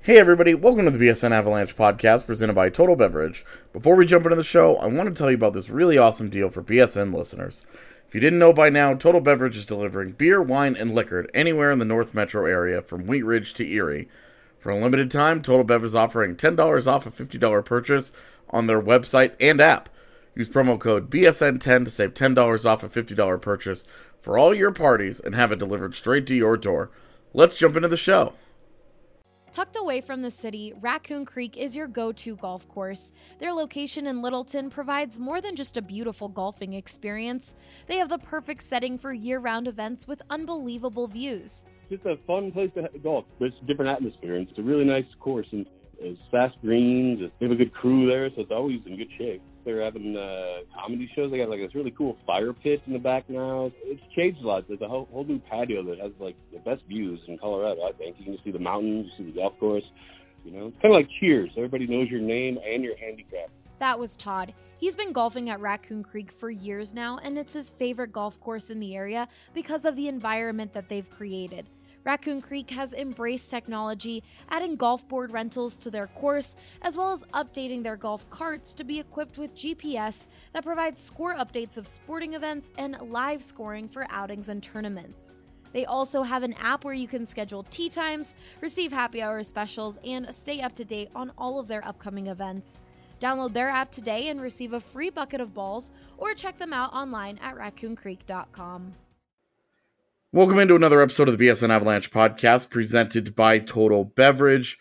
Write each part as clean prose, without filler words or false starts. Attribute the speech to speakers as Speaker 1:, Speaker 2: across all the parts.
Speaker 1: Hey everybody, welcome to the BSN Avalanche podcast presented by Total Beverage. Before we jump into the show, I want to tell you about this really awesome deal for BSN listeners. If you didn't know by now, Total Beverage is delivering beer, wine, and liquor anywhere in the North Metro area from Wheat Ridge to Erie. For a limited time, Total Bev is offering $10 off a $50 purchase on their website and app. Use promo code BSN10 to save $10 off a $50 purchase for all your parties and have it delivered straight to your door. Let's jump into the show.
Speaker 2: Tucked away from the city, Raccoon Creek is your go-to golf course. Their location in Littleton provides more than just a beautiful golfing experience. They have the perfect setting for year-round events with unbelievable views.
Speaker 3: It's just a fun place to golf. It's a different atmosphere, and it's a really nice course, and it's fast greens. They have a good crew there, so it's always in good shape. They're having comedy shows. They got like this really cool fire pit in the back now. It's changed a lot. There's a whole new patio that has like the best views in Colorado, I think. You can see the mountains, you see the golf course. You know, it's kind of like Cheers. Everybody knows your name and your handicap.
Speaker 2: That was Todd. He's been golfing at Raccoon Creek for years now, and it's his favorite golf course in the area because of the environment that they've created. Raccoon Creek has embraced technology, adding golf board rentals to their course, as well as updating their golf carts to be equipped with GPS that provides score updates of sporting events and live scoring for outings and tournaments. They also have an app where you can schedule tee times, receive happy hour specials, and stay up to date on all of their upcoming events. Download their app today and receive a free bucket of balls, or check them out online at raccooncreek.com.
Speaker 1: Welcome into another episode of the BSN Avalanche podcast presented by Total Beverage.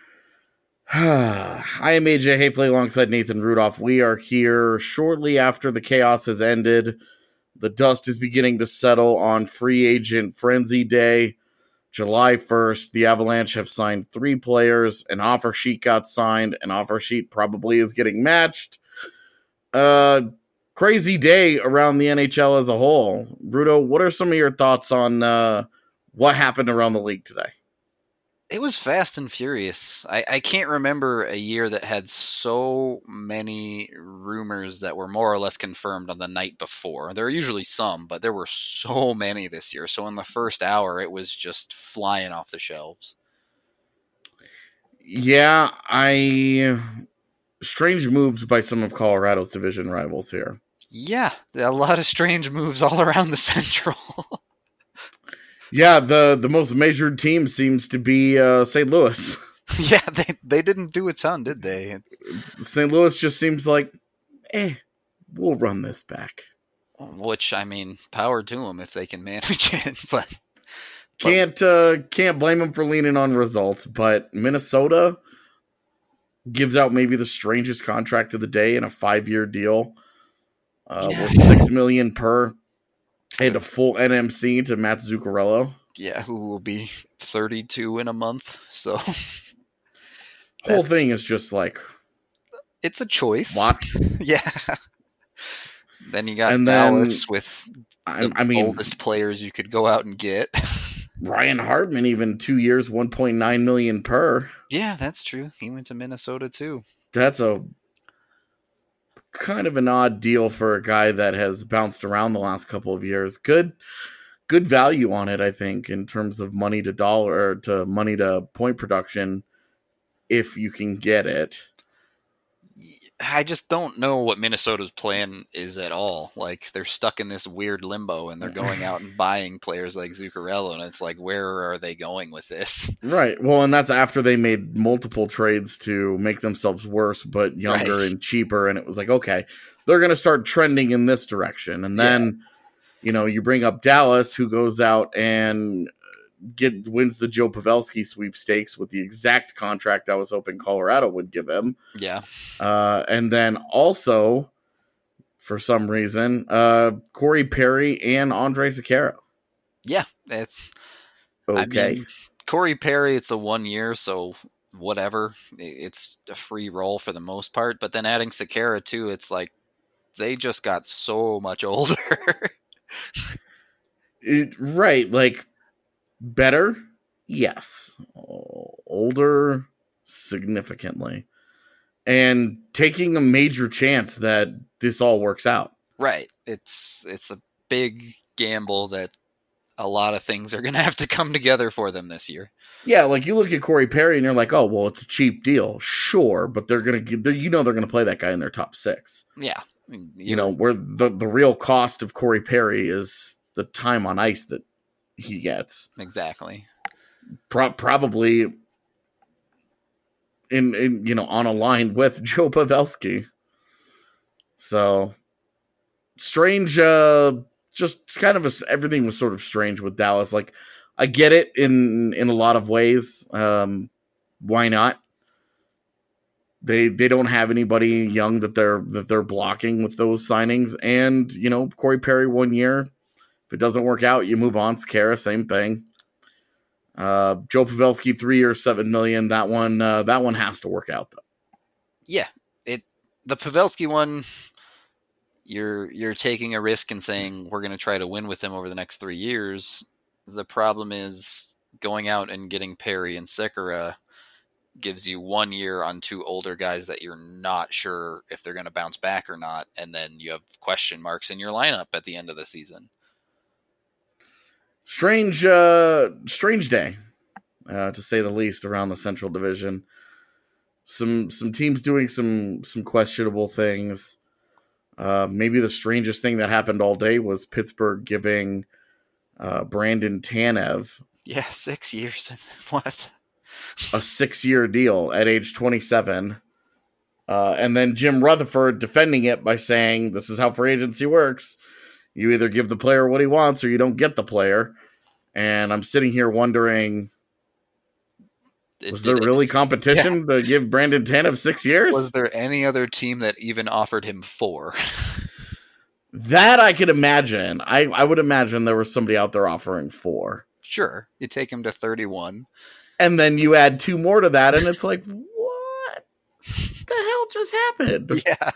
Speaker 1: I am AJ Hafley alongside Nathan Rudolph. We are here shortly after the chaos has ended. The dust is beginning to settle on free agent frenzy day, July 1st. The Avalanche have signed 3 players. An offer sheet got signed. An offer sheet probably is getting matched. Crazy day around the NHL as a whole. Rudo, what are some of your thoughts on what happened around the league today?
Speaker 4: It was fast and furious. I can't remember a year that had so many rumors that were more or less confirmed on the night before. There are usually some, but there were so many this year. So in the first hour, it was just flying off the shelves.
Speaker 1: Yeah, strange moves by some of Colorado's division rivals here.
Speaker 4: Yeah, a lot of strange moves all around the Central.
Speaker 1: Yeah, the most measured team seems to be St. Louis.
Speaker 4: Yeah, they didn't do a ton, did they?
Speaker 1: St. Louis just seems like, we'll run this back.
Speaker 4: Which, I mean, power to them if they can manage it, but
Speaker 1: can't blame them for leaning on results. But Minnesota gives out maybe the strangest contract of the day in a 5-year deal. With $6 million per, and a full NMC to Matt Zuccarello.
Speaker 4: Yeah, who will be 32 in a month. So
Speaker 1: whole thing is just like,
Speaker 4: it's a choice.
Speaker 1: What?
Speaker 4: Yeah. Then you got Dallas with the oldest players you could go out and get.
Speaker 1: Ryan Hartman, even 2 years, $1.9 million per.
Speaker 4: Yeah, that's true. He went to Minnesota too.
Speaker 1: That's a kind of an odd deal for a guy that has bounced around the last couple of years. Good value on it, I think, in terms of money to dollar to money to point production, if you can get it.
Speaker 4: I just don't know what Minnesota's plan is at all. Like, they're stuck in this weird limbo, and they're going out and buying players like Zuccarello, and it's like, where are they going with this?
Speaker 1: Right. Well, and that's after they made multiple trades to make themselves worse, but younger and cheaper, and it was like, okay, they're going to start trending in this direction. And then, you bring up Dallas, who goes out and wins the Joe Pavelski sweepstakes with the exact contract I was hoping Colorado would give him.
Speaker 4: Yeah.
Speaker 1: And then also, for some reason, Corey Perry and Andre Sekera.
Speaker 4: Yeah, it's
Speaker 1: okay.
Speaker 4: I mean, Corey Perry, it's a 1 year, so whatever. It's a free roll for the most part. But then adding Sekera too, it's like they just got so much older.
Speaker 1: Right, like better, yes. Older, significantly, and taking a major chance that this all works out.
Speaker 4: Right. It's a big gamble that a lot of things are going to have to come together for them this year.
Speaker 1: Yeah, like you look at Corey Perry and you're like, oh, well, it's a cheap deal. Sure, but they're going to, they're going to play that guy in their top 6.
Speaker 4: Yeah.
Speaker 1: Where the real cost of Corey Perry is the time on ice that he gets.
Speaker 4: Exactly.
Speaker 1: Probably in on a line with Joe Pavelski. So strange, just kind of everything was sort of strange with Dallas. Like, I get it in a lot of ways. Why not? They don't have anybody young that they're blocking with those signings. And, Corey Perry 1 year. If it doesn't work out, you move on. Sekera, same thing. Joe Pavelski, 3 years, $7 million. That one has to work out though.
Speaker 4: Yeah. The Pavelski one, you're taking a risk and saying we're going to try to win with him over the next 3 years. The problem is going out and getting Perry and Sekera gives you 1 year on 2 older guys that you're not sure if they're going to bounce back or not. And then you have question marks in your lineup at the end of the season.
Speaker 1: Strange day, to say the least, around the Central Division. Some teams doing some questionable things. Maybe the strangest thing that happened all day was Pittsburgh giving Brandon Tanev
Speaker 4: 6 years. What?
Speaker 1: A 6-year deal at age 27. And then Jim Rutherford defending it by saying, this is how free agency works. You either give the player what he wants or you don't get the player. And I'm sitting here wondering, was there really competition to give Brandon Tanev 6 years?
Speaker 4: Was there any other team that even offered him 4?
Speaker 1: That I could imagine. I would imagine there was somebody out there offering 4.
Speaker 4: Sure. You take him to 31.
Speaker 1: And then you add 2 more to that, and it's like, what the hell just happened?
Speaker 4: Yeah.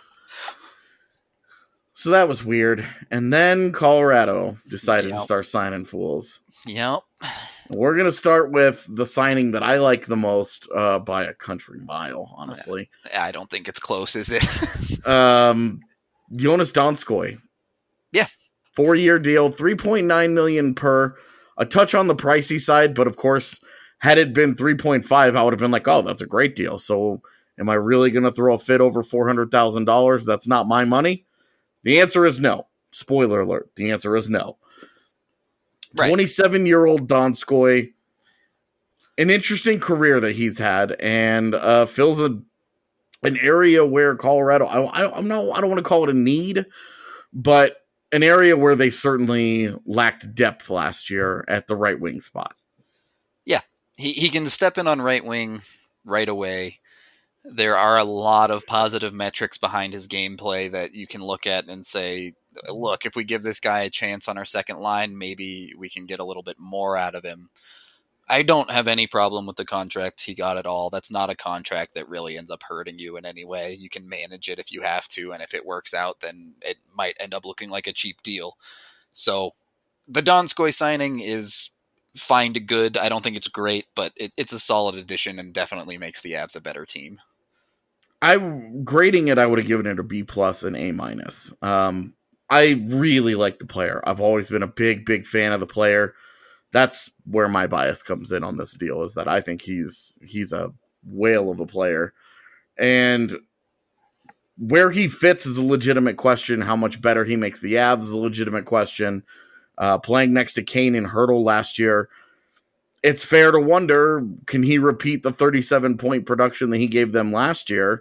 Speaker 1: So that was weird. And then Colorado decided to start signing fools.
Speaker 4: Yep.
Speaker 1: We're going to start with the signing that I like the most by a country mile, honestly.
Speaker 4: I don't think it's close, is it?
Speaker 1: Jonas Donskoy.
Speaker 4: Yeah.
Speaker 1: 4-year deal, $3.9 million per. A touch on the pricey side, but of course, had it been 3.5, I would have been like, oh, that's a great deal. So am I really going to throw a fit over $400,000? That's not my money. The answer is no. Spoiler alert. The answer is no. Right. 27-year-old Donskoy, an interesting career that he's had, and fills an area where Colorado, I don't want to call it a need, but an area where they certainly lacked depth last year at the right wing spot.
Speaker 4: Yeah, he can step in on right wing right away. There are a lot of positive metrics behind his gameplay that you can look at and say, look, if we give this guy a chance on our second line, maybe we can get a little bit more out of him. I don't have any problem with the contract he got at all. That's not a contract that really ends up hurting you in any way. You can manage it if you have to, and if it works out, then it might end up looking like a cheap deal. So the Donskoy signing is fine to good. I don't think it's great, but it's a solid addition and definitely makes the Avs a better team.
Speaker 1: Grading it, I would have given it a B+ and A-. I really like the player. I've always been a big fan of the player. That's where my bias comes in on this deal, is that I think he's a whale of a player. And where he fits is a legitimate question. How much better he makes the Avs is a legitimate question. Playing next to Kane and Hertl last year, it's fair to wonder, can he repeat the 37-point production that he gave them last year?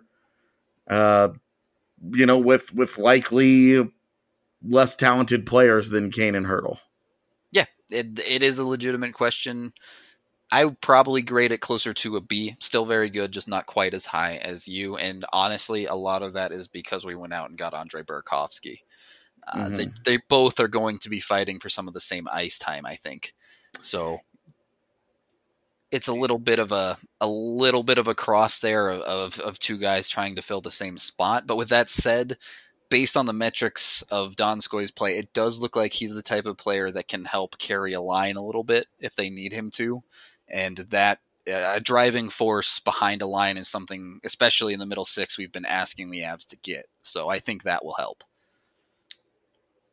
Speaker 1: With likely less talented players than Kane and Hertl.
Speaker 4: Yeah, it is a legitimate question. I would probably grade it closer to a B. Still very good, just not quite as high as you. And honestly, a lot of that is because we went out and got Andrei Burakovsky. They both are going to be fighting for some of the same ice time, I think. So it's a little bit of a cross there of two guys trying to fill the same spot. But with that said, based on the metrics of Donskoy's play, it does look like he's the type of player that can help carry a line a little bit if they need him to. And that a driving force behind a line is something, especially in the middle six, we've been asking the Avs to get. So I think that will help.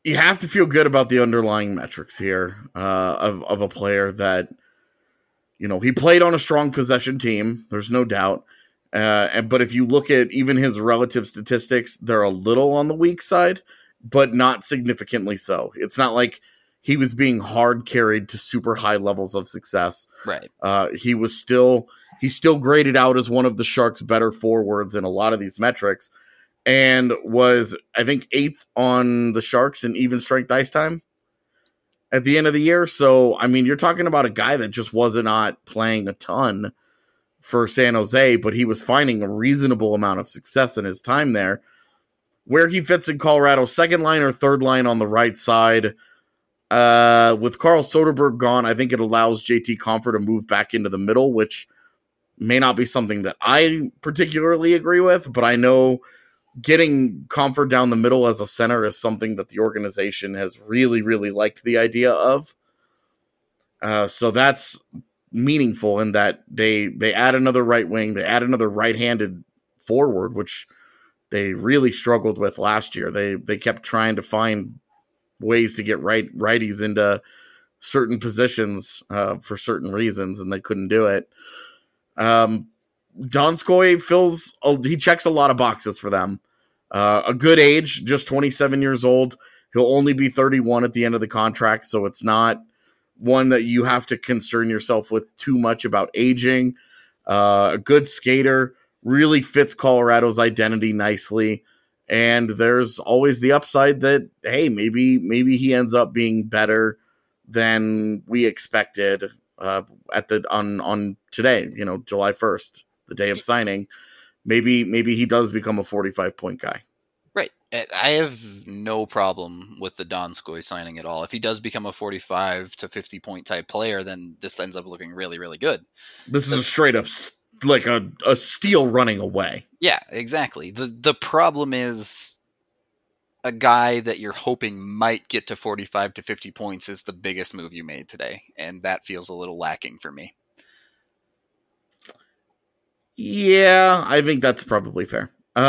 Speaker 1: you have to feel good about the underlying metrics here of a player that, he played on a strong possession team. There's no doubt. But if you look at even his relative statistics, they're a little on the weak side, but not significantly so. It's not like he was being hard carried to super high levels of success.
Speaker 4: Right.
Speaker 1: He's still graded out as one of the Sharks' better forwards in a lot of these metrics, and was, I think, 8th on the Sharks in even strength ice time at the end of the year. So, I mean, you're talking about a guy that just was not playing a ton for San Jose, but he was finding a reasonable amount of success in his time there. Where he fits in Colorado, second line or third line on the right side. With Carl Soderberg gone, I think it allows JT Compher to move back into the middle, which may not be something that I particularly agree with, but I know getting Compher down the middle as a center is something that the organization has really, really liked the idea of. So that's meaningful in that they add another right wing, they add another right-handed forward, which they really struggled with last year. They kept trying to find ways to get righties into certain positions for certain reasons, and they couldn't do it. Donskoy he checks a lot of boxes for them. A good age, just 27 years old. He'll only be 31 at the end of the contract, so it's not one that you have to concern yourself with too much about aging. A good skater, really fits Colorado's identity nicely. And there's always the upside that, hey, maybe he ends up being better than we expected on today, July 1st, the day of signing. Maybe he does become a 45-point guy.
Speaker 4: Right. I have no problem with the Donskoy signing at all. If he does become a 45 to 50-point type player, then this ends up looking really, really good.
Speaker 1: This is a straight up like a steal running away.
Speaker 4: Yeah, exactly. The problem is a guy that you're hoping might get to 45 to 50 points is the biggest move you made today, and that feels a little lacking for me.
Speaker 1: Yeah, I think that's probably fair.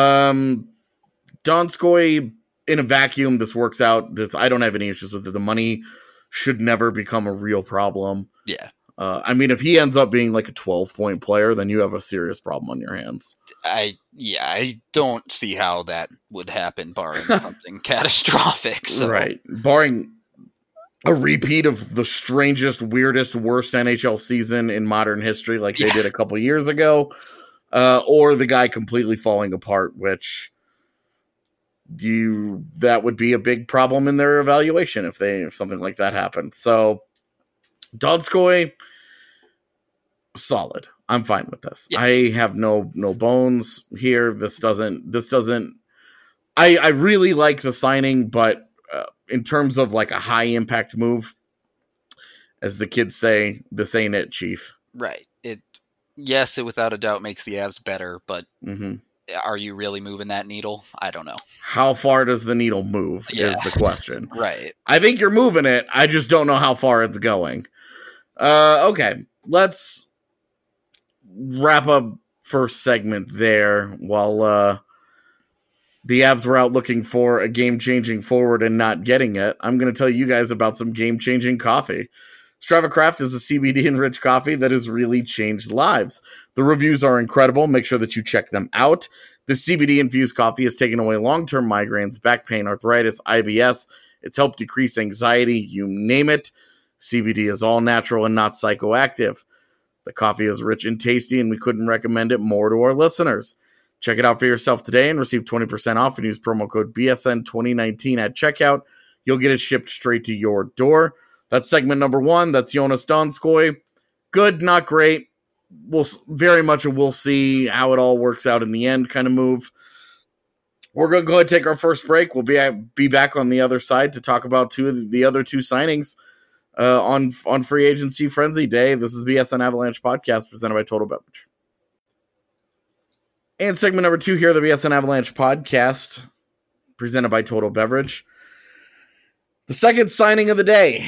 Speaker 1: Donskoy, in a vacuum, this works out. I don't have any issues with it. The money should never become a real problem.
Speaker 4: Yeah.
Speaker 1: I mean, if he ends up being like a 12-point player, then you have a serious problem on your hands.
Speaker 4: I don't see how that would happen, barring something catastrophic. So.
Speaker 1: Right. Barring a repeat of the strangest, weirdest, worst NHL season in modern history, like they did a couple years ago, or the guy completely falling apart, which that would be a big problem in their evaluation if something like that happened. So Donskoy, solid. I'm fine with this. Yeah. I have no bones here. This doesn't. I really like the signing, but in terms of like a high impact move, as the kids say, this ain't it, Chief.
Speaker 4: Right. It without a doubt makes the Avs better, but are you really moving that needle? I don't know.
Speaker 1: How far does the needle move is the question.
Speaker 4: Right.
Speaker 1: I think you're moving it. I just don't know how far it's going. Okay, let's wrap up first segment there while the Avs were out looking for a game-changing forward and not getting it. I'm going to tell you guys about some game-changing coffee. Strava Craft is a CBD-enriched coffee that has really changed lives. The reviews are incredible. Make sure that you check them out. The CBD-infused coffee has taken away long-term migraines, back pain, arthritis, IBS. It's helped decrease anxiety, you name it. CBD is all natural and not psychoactive. The coffee is rich and tasty, and we couldn't recommend it more to our listeners. Check it out for yourself today and receive 20% off and use promo code BSN2019 at checkout. You'll get it shipped straight to your door. That's segment number one. That's Jonas Donskoy. Good, not great. We'll see how it all works out in the end kind of move. We're going to go ahead and take our first break. We'll be back on the other side to talk about the other two signings on Free Agency Frenzy Day. This is BSN Avalanche Podcast presented by Total Beverage. And segment number two here, the BSN Avalanche Podcast presented by Total Beverage. The second signing of the day,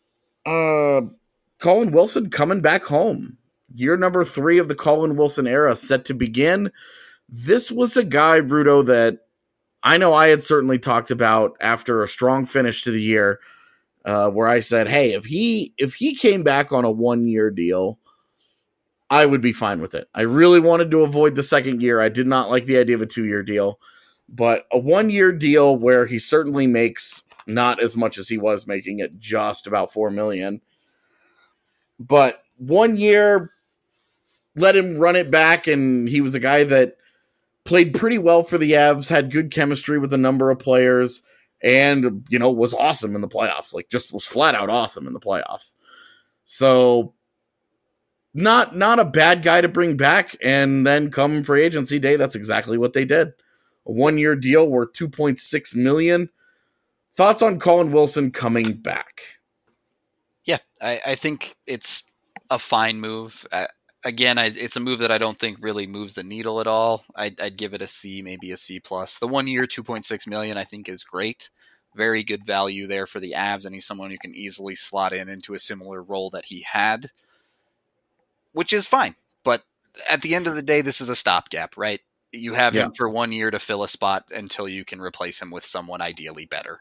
Speaker 1: Colin Wilson coming back home. Year number 3 of the Colin Wilson era set to begin. This was a guy, Rudo, that I know I had certainly talked about after a strong finish to the year, where I said, hey, if he came back on a 1-year deal, I would be fine with it. I really wanted to avoid the second year. I did not like the idea of a 2-year deal, but a 1-year deal where he certainly makes not as much as he was making at just about $4 million. But 1 year, let him run it back, and he was a guy that played pretty well for the Avs, had good chemistry with a number of players, and, was awesome in the playoffs. Like, just was flat out awesome in the playoffs. So, not a bad guy to bring back, and then come free agency day, that's exactly what they did. A 1-year deal worth $2.6 million. Thoughts on Colin Wilson coming back?
Speaker 4: Yeah, I think it's a fine move. Again, it's a move that I don't think really moves the needle at all. I'd give it a C, maybe a C+. The 1 year, $2.6 million, I think is great. Very good value there for the Avs, and he's someone who can easily slot into a similar role that he had, which is fine. But at the end of the day, this is a stopgap, right? You have him for 1 year to fill a spot until you can replace him with someone ideally better.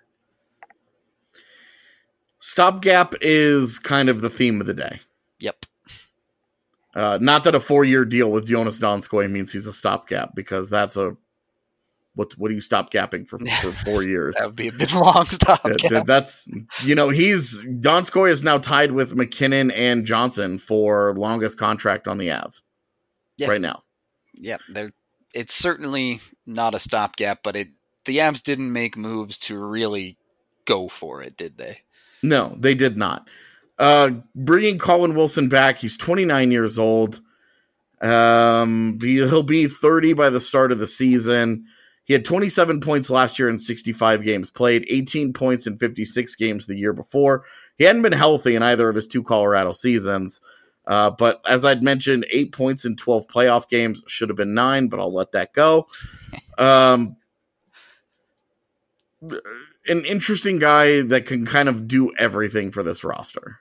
Speaker 1: Stopgap is kind of the theme of the day.
Speaker 4: Yep.
Speaker 1: Not that a 4-year deal with Jonas Donskoy means he's a stopgap, because that's what do you stop gapping for 4 years?
Speaker 4: That would be a bit long stopgap.
Speaker 1: That's Donskoy is now tied with McKinnon and Johnson for longest contract on the Avs right now.
Speaker 4: Yeah, it's certainly not a stopgap, but the Avs didn't make moves to really go for it, did they?
Speaker 1: No, they did not. Bringing Colin Wilson back, he's 29 years old. He'll be 30 by the start of the season. He had 27 points last year in 65 games played, 18 points in 56 games the year before. He hadn't been healthy in either of his 2 Colorado seasons. But as I'd mentioned, 8 points in 12 playoff games. Should have been 9, but I'll let that go. An interesting guy that can kind of do everything for this roster.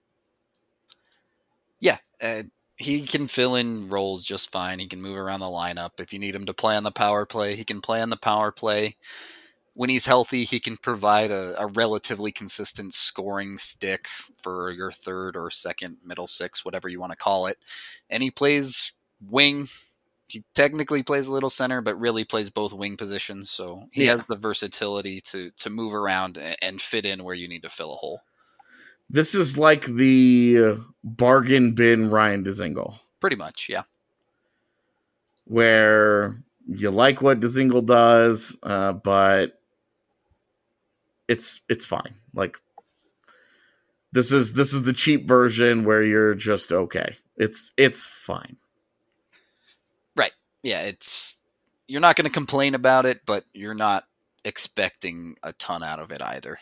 Speaker 4: Yeah, he can fill in roles just fine. He can move around the lineup. If you need him to play on the power play, he can play on the power play. When he's healthy, he can provide a relatively consistent scoring stick for your third or second middle six, whatever you want to call it. And he plays wing. He technically plays a little center, but really plays both wing positions. So he has the versatility to move around and fit in where you need to fill a hole.
Speaker 1: This is like the bargain bin Ryan Dzingel.
Speaker 4: Pretty much, yeah.
Speaker 1: Where you like what Dzingel does, but it's fine. Like, this is the cheap version where you're just okay. It's fine.
Speaker 4: Right. Yeah, you're not going to complain about it, but you're not expecting a ton out of it either.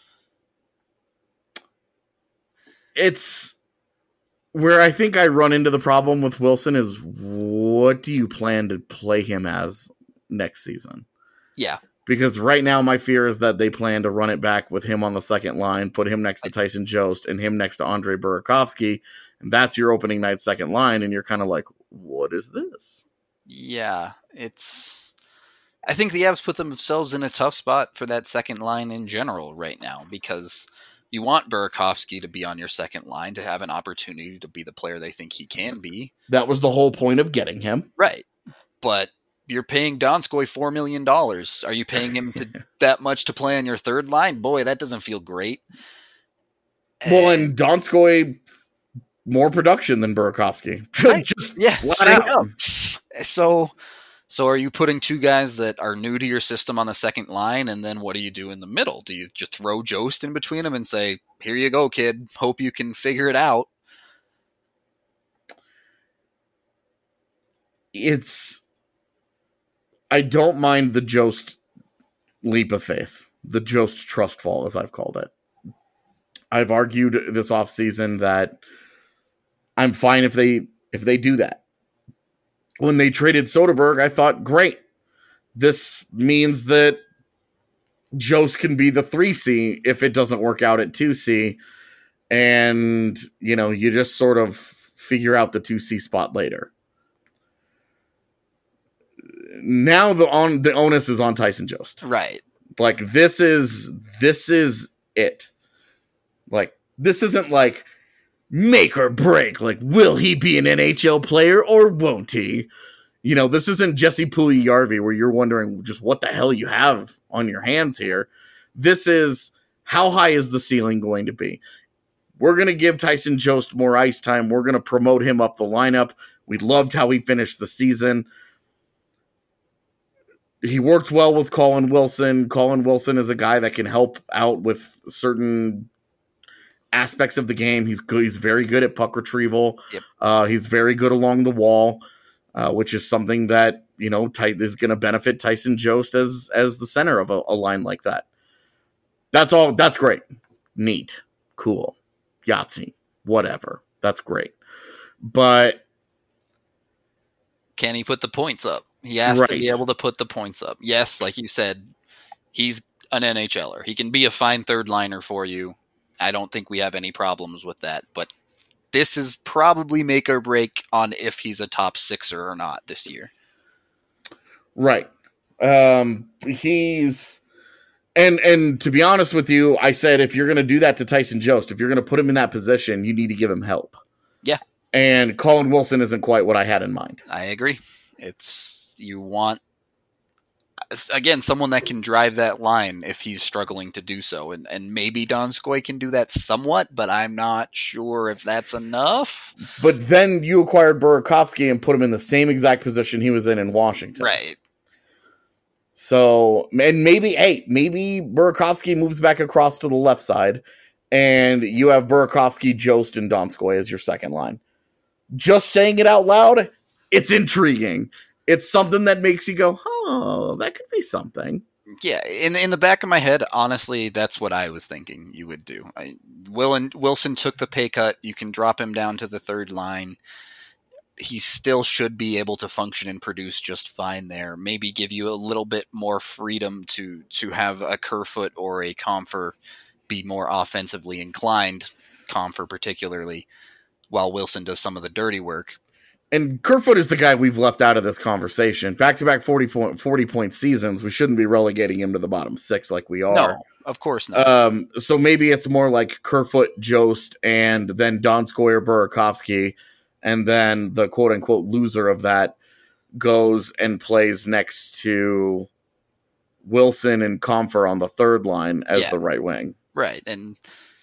Speaker 1: It's where I think I run into the problem with Wilson is, what do you plan to play him as next season?
Speaker 4: Yeah.
Speaker 1: Because right now my fear is that they plan to run it back with him on the second line, put him next to Tyson Jost and him next to Andre Burakovsky, and that's your opening night second line, and you're kind of like, what is this?
Speaker 4: Yeah, I think the Avs put themselves in a tough spot for that second line in general right now, because you want Burakovsky to be on your second line to have an opportunity to be the player they think he can be.
Speaker 1: That was the whole point of getting him.
Speaker 4: Right. But you're paying Donskoy $4 million. Are you paying him that much to play on your third line? Boy, that doesn't feel great.
Speaker 1: Well, and Donskoy, more production than Burakovsky.
Speaker 4: Right.
Speaker 1: Just
Speaker 4: straight up. So are you putting two guys that are new to your system on the second line, and then what do you do in the middle? Do you just throw Jost in between them and say, here you go, kid, hope you can figure it out?
Speaker 1: I don't mind the Jost leap of faith, the Jost trust fall, as I've called it. I've argued this offseason that I'm fine if they do that. When they traded Soderberg, I thought, great. This means that Jost can be the 3C if it doesn't work out at 2C. And, you just sort of figure out the 2C spot later. now the onus is on Tyson Jost.
Speaker 4: Right.
Speaker 1: Like this is it. Like this isn't like make or break. Like, will he be an NHL player or won't he? You know, this isn't Jesse Puljujarvi where you're wondering just what the hell you have on your hands here. This is how high is the ceiling going to be? We're going to give Tyson Jost more ice time. We're going to promote him up the lineup. We loved how he finished the season. He worked well with Colin Wilson. Colin Wilson is a guy that can help out with certain aspects of the game. He's good. He's very good at puck retrieval.
Speaker 4: Yep.
Speaker 1: He's very good along the wall, which is something that, you know, is going to benefit Tyson Jost as the center of a line like that. That's all. That's great. Neat. Cool. Yahtzee. Whatever. That's great. But
Speaker 4: can he put the points up? He has to be able to put the points up. Yes, like you said, he's an NHLer. He can be a fine third liner for you. I don't think we have any problems with that. But this is probably make or break on if he's a top sixer or not this year.
Speaker 1: Right. He's... And to be honest with you, I said if you're going to do that to Tyson Jost, if you're going to put him in that position, you need to give him help.
Speaker 4: Yeah.
Speaker 1: And Colin Wilson isn't quite what I had in mind.
Speaker 4: I agree. You want, again, someone that can drive that line if he's struggling to do so. And maybe Donskoy can do that somewhat, but I'm not sure if that's enough.
Speaker 1: But then you acquired Burakovsky and put him in the same exact position he was in Washington.
Speaker 4: Right.
Speaker 1: So, and maybe Burakovsky moves back across to the left side, and you have Burakovsky, Jost, and Donskoy as your second line. Just saying it out loud, it's intriguing. It's something that makes you go, oh, that could be something.
Speaker 4: Yeah, in the back of my head, honestly, that's what I was thinking you would do. Wilson took the pay cut. You can drop him down to the third line. He still should be able to function and produce just fine there. Maybe give you a little bit more freedom to have a Kerfoot or a Compher be more offensively inclined, Compher particularly, while Wilson does some of the dirty work.
Speaker 1: And Kerfoot is the guy we've left out of this conversation. Back-to-back 40-point seasons, we shouldn't be relegating him to the bottom six like we are.
Speaker 4: No, of course not.
Speaker 1: So maybe it's more like Kerfoot, Jost, and then Donskoy or Burakovsky, and then the quote-unquote loser of that goes and plays next to Wilson and Compher on the third line as the right wing.
Speaker 4: Right, and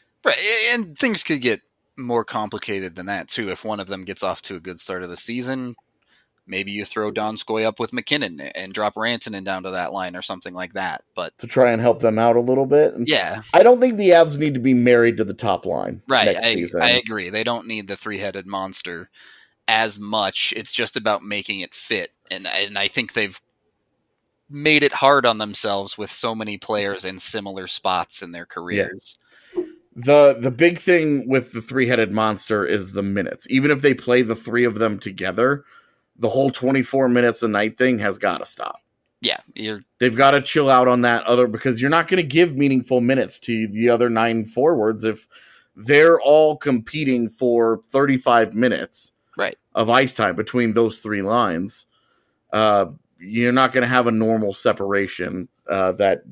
Speaker 4: things could get more complicated than that too. If one of them gets off to a good start of the season, maybe you throw Donskoy up with McKinnon and drop Rantanen down to that line or something like that. But to
Speaker 1: try and help them out a little bit.
Speaker 4: Yeah.
Speaker 1: I don't think the Avs need to be married to the top line.
Speaker 4: Right. I agree. They don't need the three-headed monster as much. It's just about making it fit. And I think they've made it hard on themselves with so many players in similar spots in their careers.
Speaker 1: Yeah. The big thing with the three-headed monster is the minutes. Even if they play the three of them together, the whole 24 minutes a night thing has got to stop.
Speaker 4: Yeah.
Speaker 1: They've got to chill out on that because you're not going to give meaningful minutes to the other 9 forwards if they're all competing for 35 minutes of ice time between those 3 lines. You're not going to have a normal separation that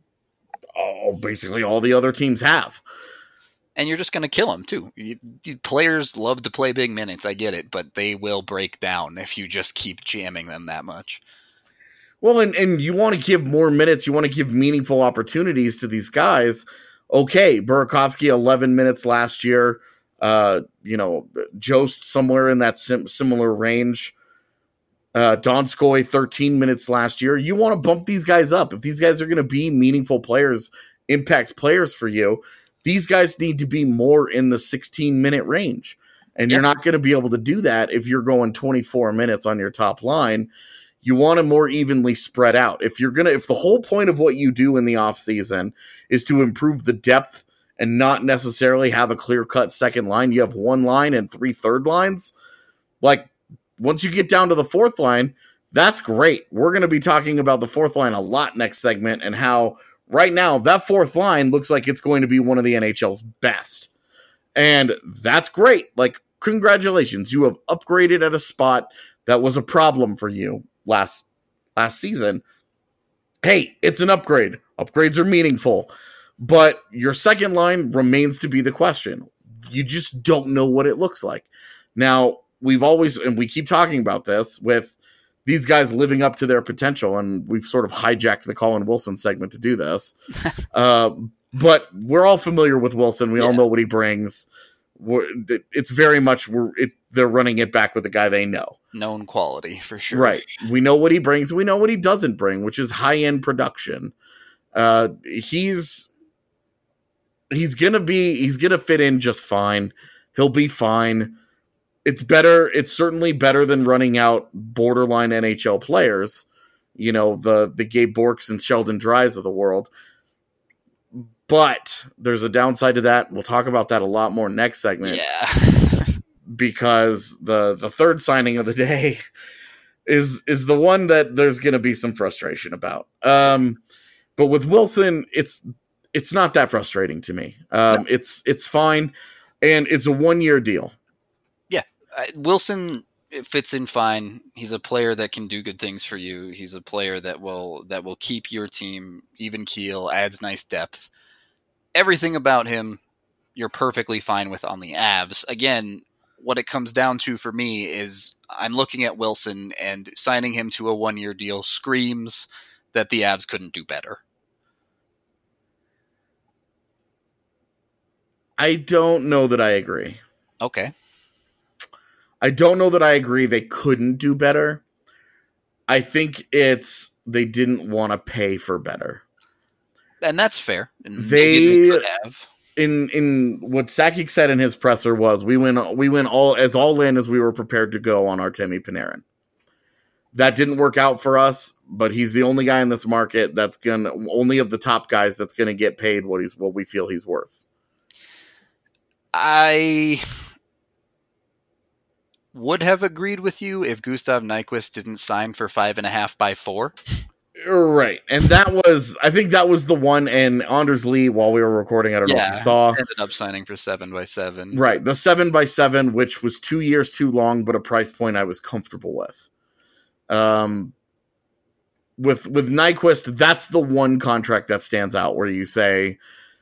Speaker 1: basically all the other teams have.
Speaker 4: And you're just going to kill them, too. Players love to play big minutes, I get it, but they will break down if you just keep jamming them that much.
Speaker 1: Well, and you want to give more minutes, you want to give meaningful opportunities to these guys. Okay, Burakovsky, 11 minutes last year. Jost somewhere in that similar range. Donskoy, 13 minutes last year. You want to bump these guys up. If these guys are going to be meaningful players, impact players for you, these guys need to be more in the 16-minute range. And you're not going to be able to do that if you're going 24 minutes on your top line. You want to more evenly spread out. If the whole point of what you do in the offseason is to improve the depth and not necessarily have a clear-cut second line, you have 1 line and 3 third lines. Like, once you get down to the 4th line, that's great. We're going to be talking about the 4th line a lot next segment and how right now that 4th line looks like it's going to be one of the NHL's best. And that's great. Like, congratulations. You have upgraded at a spot that was a problem for you last last season, hey, it's an upgrade. Upgrades are meaningful. But your second line remains to be the question. You just don't know what it looks like. Now, we've always, and we keep talking about this, with these guys living up to their potential, and we've sort of hijacked the Colin Wilson segment to do this. But we're all familiar with Wilson. We all know what he brings. It's very much, they're running it back with the guy they know. Known
Speaker 4: quality, for sure.
Speaker 1: Right. We know what he brings. We know what he doesn't bring, which is high-end production. He's gonna fit in just fine. He'll be fine. It's better. It's certainly better than running out borderline NHL players. You know, the Gabe Borks and Sheldon Dries of the world. But there's a downside to that. We'll talk about that a lot more next segment.
Speaker 4: Yeah.
Speaker 1: Because the third signing of the day is the one that there's going to be some frustration about. But with Wilson, it's not that frustrating to me. No. It's fine, and it's a 1-year deal.
Speaker 4: Yeah, Wilson fits in fine. He's a player that can do good things for you. He's a player that will keep your team even keel, adds nice depth. Everything about him, you're perfectly fine with on the Avs. Again, what it comes down to for me is I'm looking at Wilson, and signing him to a 1-year deal screams that the Avs couldn't do better.
Speaker 1: I don't know that I agree.
Speaker 4: Okay.
Speaker 1: I don't know that I agree they couldn't do better. I think it's they didn't want to pay for better.
Speaker 4: And that's fair. And
Speaker 1: they could have. In what Sakic said in his presser was, we went all in as we were prepared to go on Artemi Panarin. That didn't work out for us, but he's the only guy in this market only of the top guys that's gonna get paid what we feel he's worth.
Speaker 4: I would have agreed with you if Gustav Nyquist didn't sign for 5.5 by 4.
Speaker 1: Right. And I think that was the one, and Anders Lee, while we were recording, I don't know if you saw,
Speaker 4: ended up signing for 7 by 7.
Speaker 1: Right. The 7 by 7, which was 2 years too long, but a price point I was comfortable with. With Nyquist, that's the one contract that stands out where you say,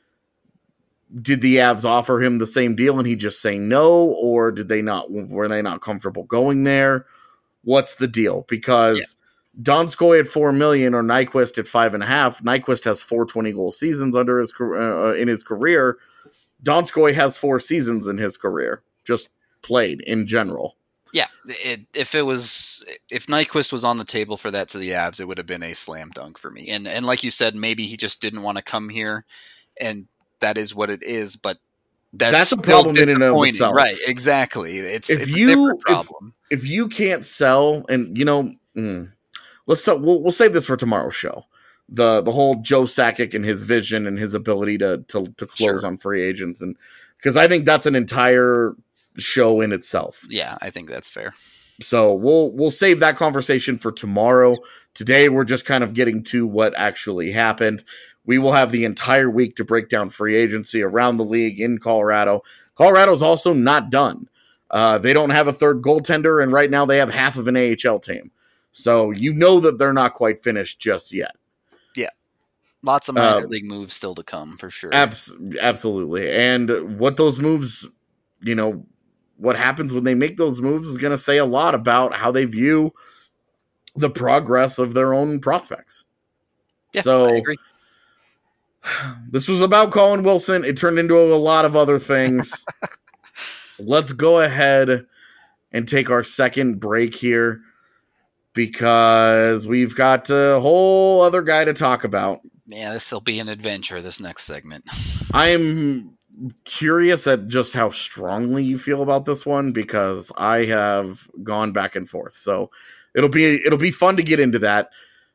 Speaker 1: did the Avs offer him the same deal and he just say no, or were they not comfortable going there? What's the deal? Because Donskoy at $4 million or Nyquist at 5.5. Nyquist has 4 20-goal seasons under his in his career. Donskoy has 4 seasons in his career, just played in general.
Speaker 4: Yeah, if Nyquist was on the table for that to the Avs, it would have been a slam dunk for me. And like you said, maybe he just didn't want to come here, and that is what it is. But that's
Speaker 1: a problem in and of itself,
Speaker 4: right? Exactly. It's a different problem.
Speaker 1: If you can't sell, and let's talk. We'll save this for tomorrow's show. The whole Joe Sakic and his vision and his ability to close on free agents, and because I think that's an entire show in itself.
Speaker 4: Yeah, I think that's fair.
Speaker 1: So we'll save that conversation for tomorrow. Today we're just kind of getting to what actually happened. We will have the entire week to break down free agency around the league in Colorado. Colorado's also not done. They don't have a third goaltender, and right now they have half of an AHL team. So you know that they're not quite finished just yet.
Speaker 4: Yeah. Lots of minor league moves still to come, for sure.
Speaker 1: Absolutely. And what those moves, what happens when they make those moves is going to say a lot about how they view the progress of their own prospects.
Speaker 4: Yeah, so, I agree.
Speaker 1: This was about Colin Wilson. It turned into a lot of other things. Let's go ahead and take our second break here because we've got a whole other guy to talk about.
Speaker 4: Yeah, this will be an adventure, this next segment.
Speaker 1: I'm curious at just how strongly you feel about this one because I have gone back and forth. So it'll be fun to get into that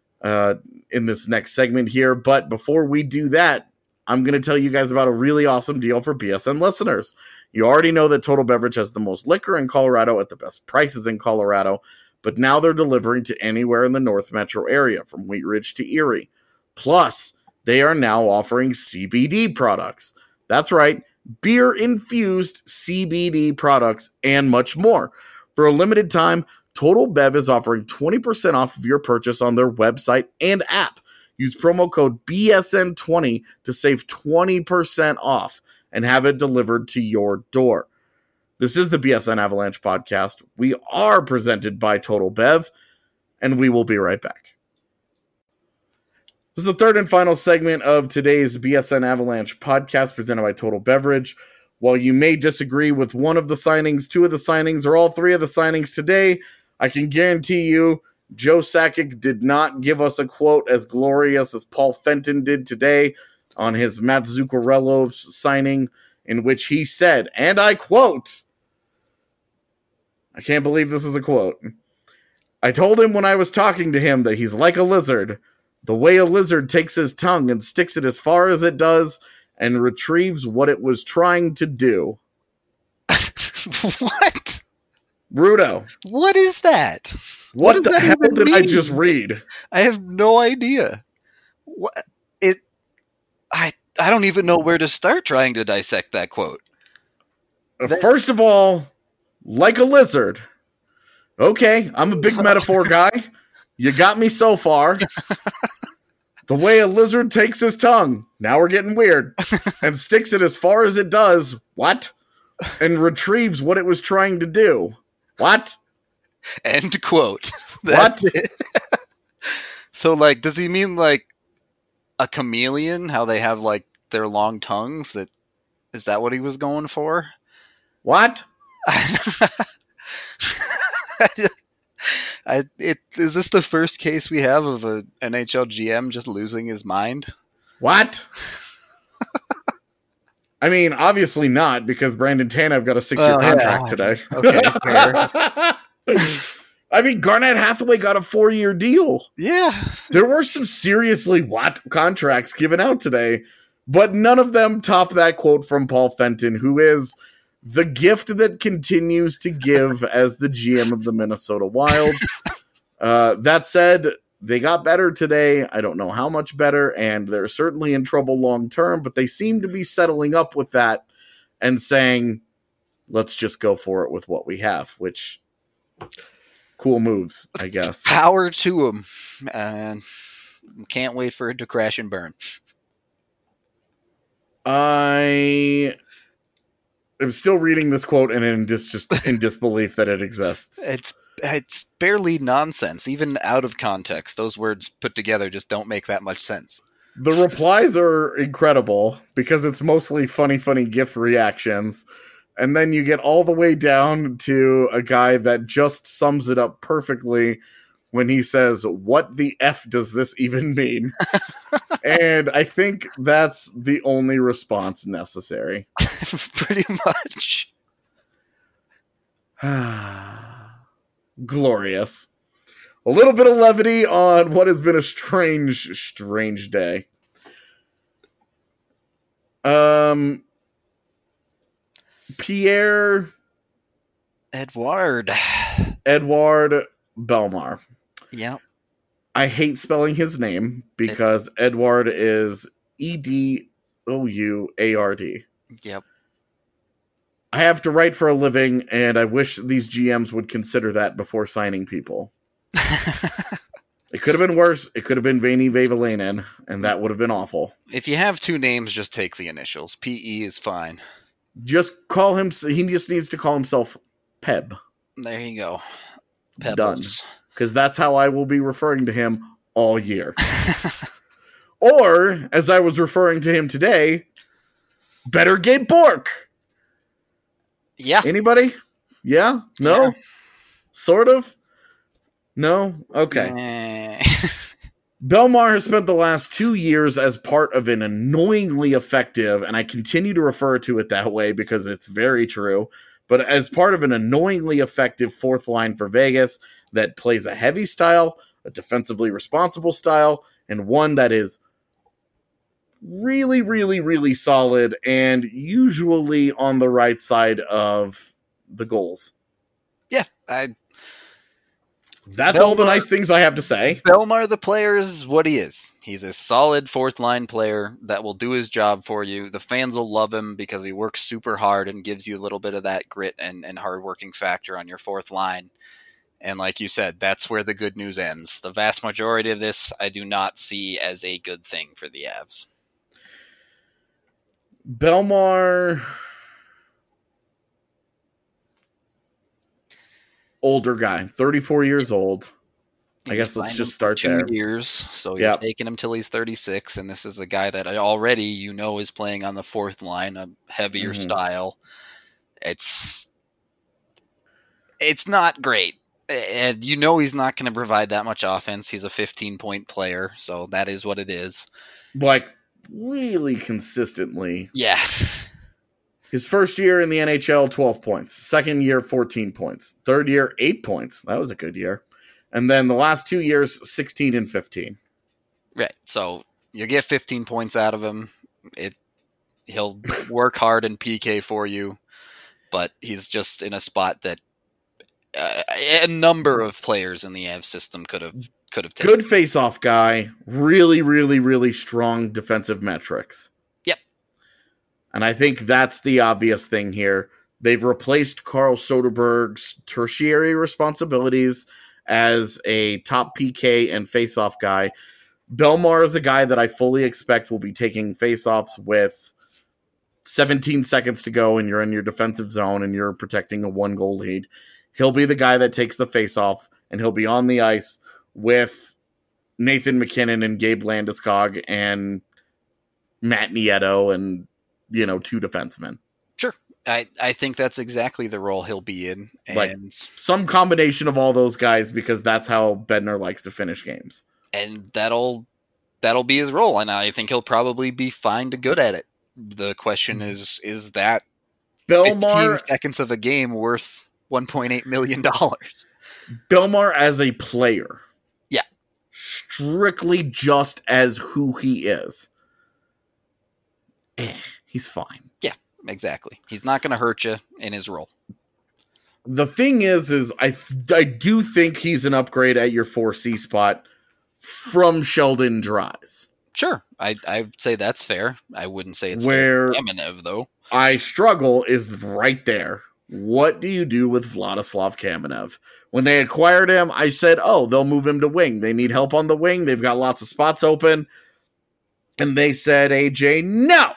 Speaker 1: in this next segment here. But before we do that, I'm going to tell you guys about a really awesome deal for BSN listeners. You already know that Total Beverage has the most liquor in Colorado at the best prices in Colorado, but now they're delivering to anywhere in the North Metro area, from Wheat Ridge to Erie. Plus, they are now offering CBD products. That's right, beer-infused CBD products and much more. For a limited time, Total Bev is offering 20% off of your purchase on their website and app. Use promo code BSN20 to save 20% off and have it delivered to your door. This is the BSN Avalanche podcast. We are presented by Total Bev, and we will be right back. This is the third and final segment of today's BSN Avalanche podcast presented by Total Beverage. While you may disagree with one of the signings, two of the signings, or all three of the signings today, I can guarantee you Joe Sakic did not give us a quote as glorious as Paul Fenton did today on his Matt Zuccarello signing, in which he said, and I quote, I can't believe this is a quote, I told him when I was talking to him that he's like a lizard, the way a lizard takes his tongue and sticks it as far as it does and retrieves what it was trying to do.
Speaker 4: What?
Speaker 1: Rudo.
Speaker 4: What is that?
Speaker 1: What the hell did
Speaker 4: mean?
Speaker 1: I just read?
Speaker 4: I have no idea. What it? I don't even know where to start trying to dissect that quote.
Speaker 1: First of all, like a lizard. Okay, I'm a big metaphor guy. You got me so far. The way a lizard takes his tongue, now we're getting weird, and sticks it as far as it does, what? And retrieves what it was trying to do. What?
Speaker 4: End quote.
Speaker 1: What?
Speaker 4: So, like, does he mean, like, a chameleon? How they have, like, their long tongues? Is that what he was going for?
Speaker 1: What?
Speaker 4: Is this the first case we have of a NHL GM just losing his mind?
Speaker 1: What? I mean, obviously not, because Brandon Tanev got a 6-year contract today.
Speaker 4: Okay, fair.
Speaker 1: I mean, Garnett Hathaway got a 4-year deal.
Speaker 4: Yeah.
Speaker 1: There were some seriously contracts given out today, but none of them top that quote from Paul Fenton, who is the gift that continues to give as the GM of the Minnesota Wild. That said, they got better today. I don't know how much better, and they're certainly in trouble long term, but they seem to be settling up with that and saying, let's just go for it with what we have, which cool moves, I guess.
Speaker 4: Power to them. And can't wait for it to crash and burn.
Speaker 1: I am still reading this quote and in just in disbelief that it exists.
Speaker 4: It's barely nonsense. Even out of context, those words put together just don't make that much sense.
Speaker 1: The replies are incredible because it's mostly funny GIF reactions. And then you get all the way down to a guy that just sums it up perfectly when he says, what the F does this even mean? And I think that's the only response necessary.
Speaker 4: Pretty much.
Speaker 1: Glorious. A little bit of levity on what has been a strange day. Pierre
Speaker 4: Edouard
Speaker 1: Bellemare.
Speaker 4: Yeah.
Speaker 1: I hate spelling his name because Edouard is Edouard.
Speaker 4: Yep.
Speaker 1: I have to write for a living, and I wish these GMs would consider that before signing people. It could have been worse. It could have been Veini Vehviläinen, and that would have been awful.
Speaker 4: If you have two names, just take the initials. PE is fine.
Speaker 1: Just call him. He just needs to call himself Peb.
Speaker 4: There you go. Pebbles.
Speaker 1: Done. Because that's how I will be referring to him all year. Or, as I was referring to him today, better Gabe Bourque.
Speaker 4: Yeah.
Speaker 1: Anybody? Yeah? No?
Speaker 4: Yeah.
Speaker 1: Sort of? No? Okay. Bellemare has spent the last 2 years as part of an annoyingly effective, and I continue to refer to it that way because it's very true, but as part of an annoyingly effective fourth line for Vegas that plays a heavy style, a defensively responsible style, and one that is really solid and usually on the right side of the goals.
Speaker 4: Yeah,
Speaker 1: That's all the nice things I have to say.
Speaker 4: Bellemare, the player, is what he is. He's a solid fourth-line player that will do his job for you. The fans will love him because he works super hard and gives you a little bit of that grit and hard-working factor on your fourth line. And like you said, that's where the good news ends. The vast majority of this I do not see as a good thing for the Avs.
Speaker 1: Belmar, older guy, 34 years old. I guess let's just start there.
Speaker 4: 2 years, so you're taking him till he's 36, and this is a guy that already is playing on the fourth line, a heavier style. It's not great. And he's not going to provide that much offense. He's a 15-point player, so that is what it is.
Speaker 1: Like, really consistently.
Speaker 4: Yeah.
Speaker 1: His first year in the NHL, 12 points. Second year, 14 points. Third year, 8 points. That was a good year. And then the last 2 years, 16 and 15.
Speaker 4: Right. So you get 15 points out of him. He'll work hard in PK for you, but he's just in a spot that a number of players in the Avs system could have taken.
Speaker 1: Good face-off guy. Really, really, really strong defensive metrics.
Speaker 4: Yep.
Speaker 1: And I think that's the obvious thing here. They've replaced Carl Soderberg's tertiary responsibilities as a top PK and face-off guy. Belmar is a guy that I fully expect will be taking face-offs with 17 seconds to go and you're in your defensive zone and you're protecting a 1-goal lead. He'll be the guy that takes the face-off, and he'll be on the ice with Nathan McKinnon and Gabe Landeskog and Matt Nieto and, 2 defensemen.
Speaker 4: Sure. I think that's exactly the role he'll be in. And
Speaker 1: like some combination of all those guys, because that's how Bednar likes to finish games.
Speaker 4: And that'll be his role, and I think he'll probably be fine to good at it. The question is that
Speaker 1: Belmar,
Speaker 4: 15 seconds of a game worth $1.8 million?
Speaker 1: Belmar as a player.
Speaker 4: Yeah.
Speaker 1: Strictly just as who he is. He's fine.
Speaker 4: Yeah, exactly. He's not going to hurt you in his role.
Speaker 1: The thing is I do think he's an upgrade at your 4C spot from Sheldon Dries.
Speaker 4: Sure. I'd say that's fair. I wouldn't say it's
Speaker 1: where
Speaker 4: Kamenev, though.
Speaker 1: I struggle is right there. What do you do with Vladislav Kamenev? When they acquired him, I said, they'll move him to wing. They need help on the wing. They've got lots of spots open. And they said, AJ, no!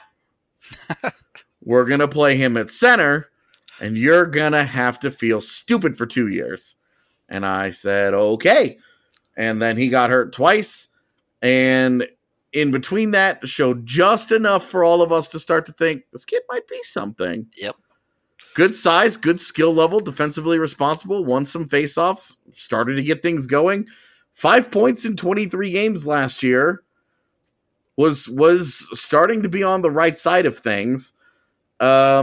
Speaker 1: We're going to play him at center, and you're going to have to feel stupid for 2 years. And I said, okay. And then he got hurt twice. And in between that, showed just enough for all of us to start to think, this kid might be something.
Speaker 4: Yep.
Speaker 1: Good size, good skill level, defensively responsible, won some faceoffs, started to get things going. 5 points in 23 games last year. Was starting to be on the right side of things. I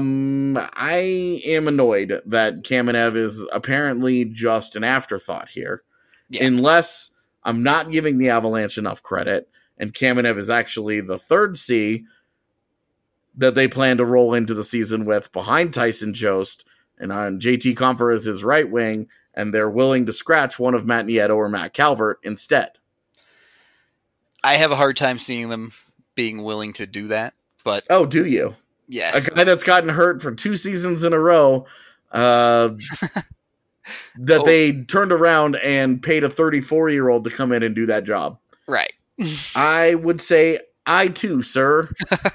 Speaker 1: am annoyed that Kamenev is apparently just an afterthought here. Yeah. Unless I'm not giving the Avalanche enough credit, and Kamenev is actually the third C that they plan to roll into the season with behind Tyson Jost, and on JT Compher as his right wing, and they're willing to scratch one of Matt Nieto or Matt Calvert instead.
Speaker 4: I have a hard time seeing them being willing to do that, but...
Speaker 1: Oh, do you?
Speaker 4: Yes.
Speaker 1: A guy that's gotten hurt for 2 seasons in a row, that they turned around and paid a 34-year-old to come in and do that job.
Speaker 4: Right.
Speaker 1: I would say, I too, sir,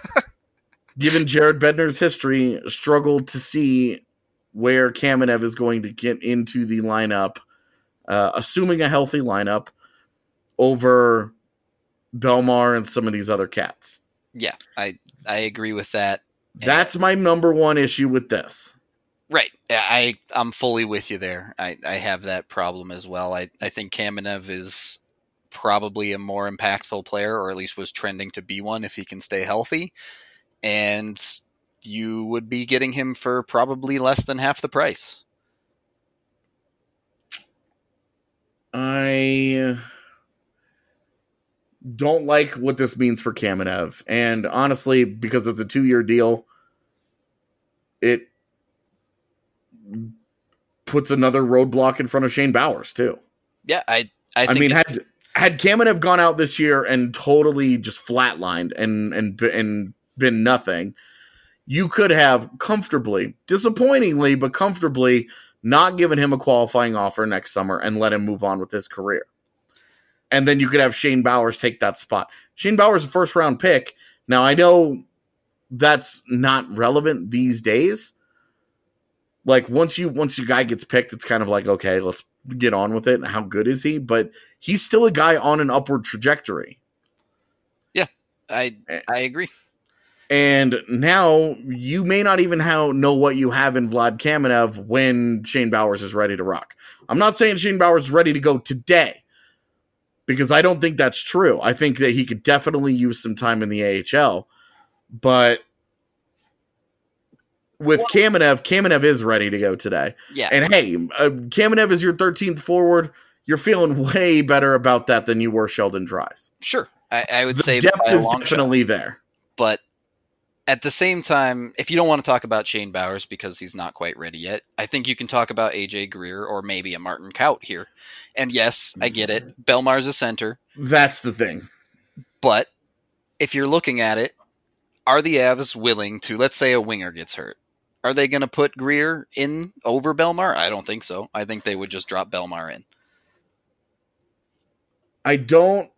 Speaker 1: given Jared Bednar's history, struggled to see where Kamenev is going to get into the lineup, assuming a healthy lineup, over Belmar and some of these other cats.
Speaker 4: Yeah, I agree with that.
Speaker 1: That's my number one issue with this.
Speaker 4: Right. I'm fully with you there. I have that problem as well. I think Kamenev is probably a more impactful player, or at least was trending to be one if he can stay healthy. And you would be getting him for probably less than half the price.
Speaker 1: I don't like what this means for Kamenev. And honestly, because it's a 2-year deal, it puts another roadblock in front of Shane Bowers, too.
Speaker 4: Yeah, I think
Speaker 1: had Kamenev gone out this year and totally just flatlined and been nothing, you could have comfortably, disappointingly, but comfortably not giving him a qualifying offer next summer and let him move on with his career. And then you could have Shane Bowers take that spot. Shane Bowers is a first-round pick. Now, I know that's not relevant these days. Like, once your guy gets picked, it's kind of like, okay, let's get on with it. How good is he? But he's still a guy on an upward trajectory.
Speaker 4: Yeah, I agree.
Speaker 1: And now you may not even know what you have in Vlad Kamenev when Shane Bowers is ready to rock. I'm not saying Shane Bowers is ready to go today, because I don't think that's true. I think that he could definitely use some time in the AHL. But with Kamenev is ready to go today.
Speaker 4: Yeah.
Speaker 1: And hey, Kamenev is your 13th forward. You're feeling way better about that than you were Sheldon Dries.
Speaker 4: Sure. I would
Speaker 1: The
Speaker 4: say
Speaker 1: depth
Speaker 4: by a
Speaker 1: is
Speaker 4: long
Speaker 1: definitely
Speaker 4: shot.
Speaker 1: there.
Speaker 4: But at the same time, if you don't want to talk about Shane Bowers because he's not quite ready yet, I think you can talk about AJ Greer or maybe a Martin Kaut here. And yes, I get it. Belmar's a center.
Speaker 1: That's the thing.
Speaker 4: But if you're looking at it, are the Avs willing to, let's say a winger gets hurt, are they going to put Greer in over Belmar? I don't think so. I think they would just drop Belmar in.
Speaker 1: I don't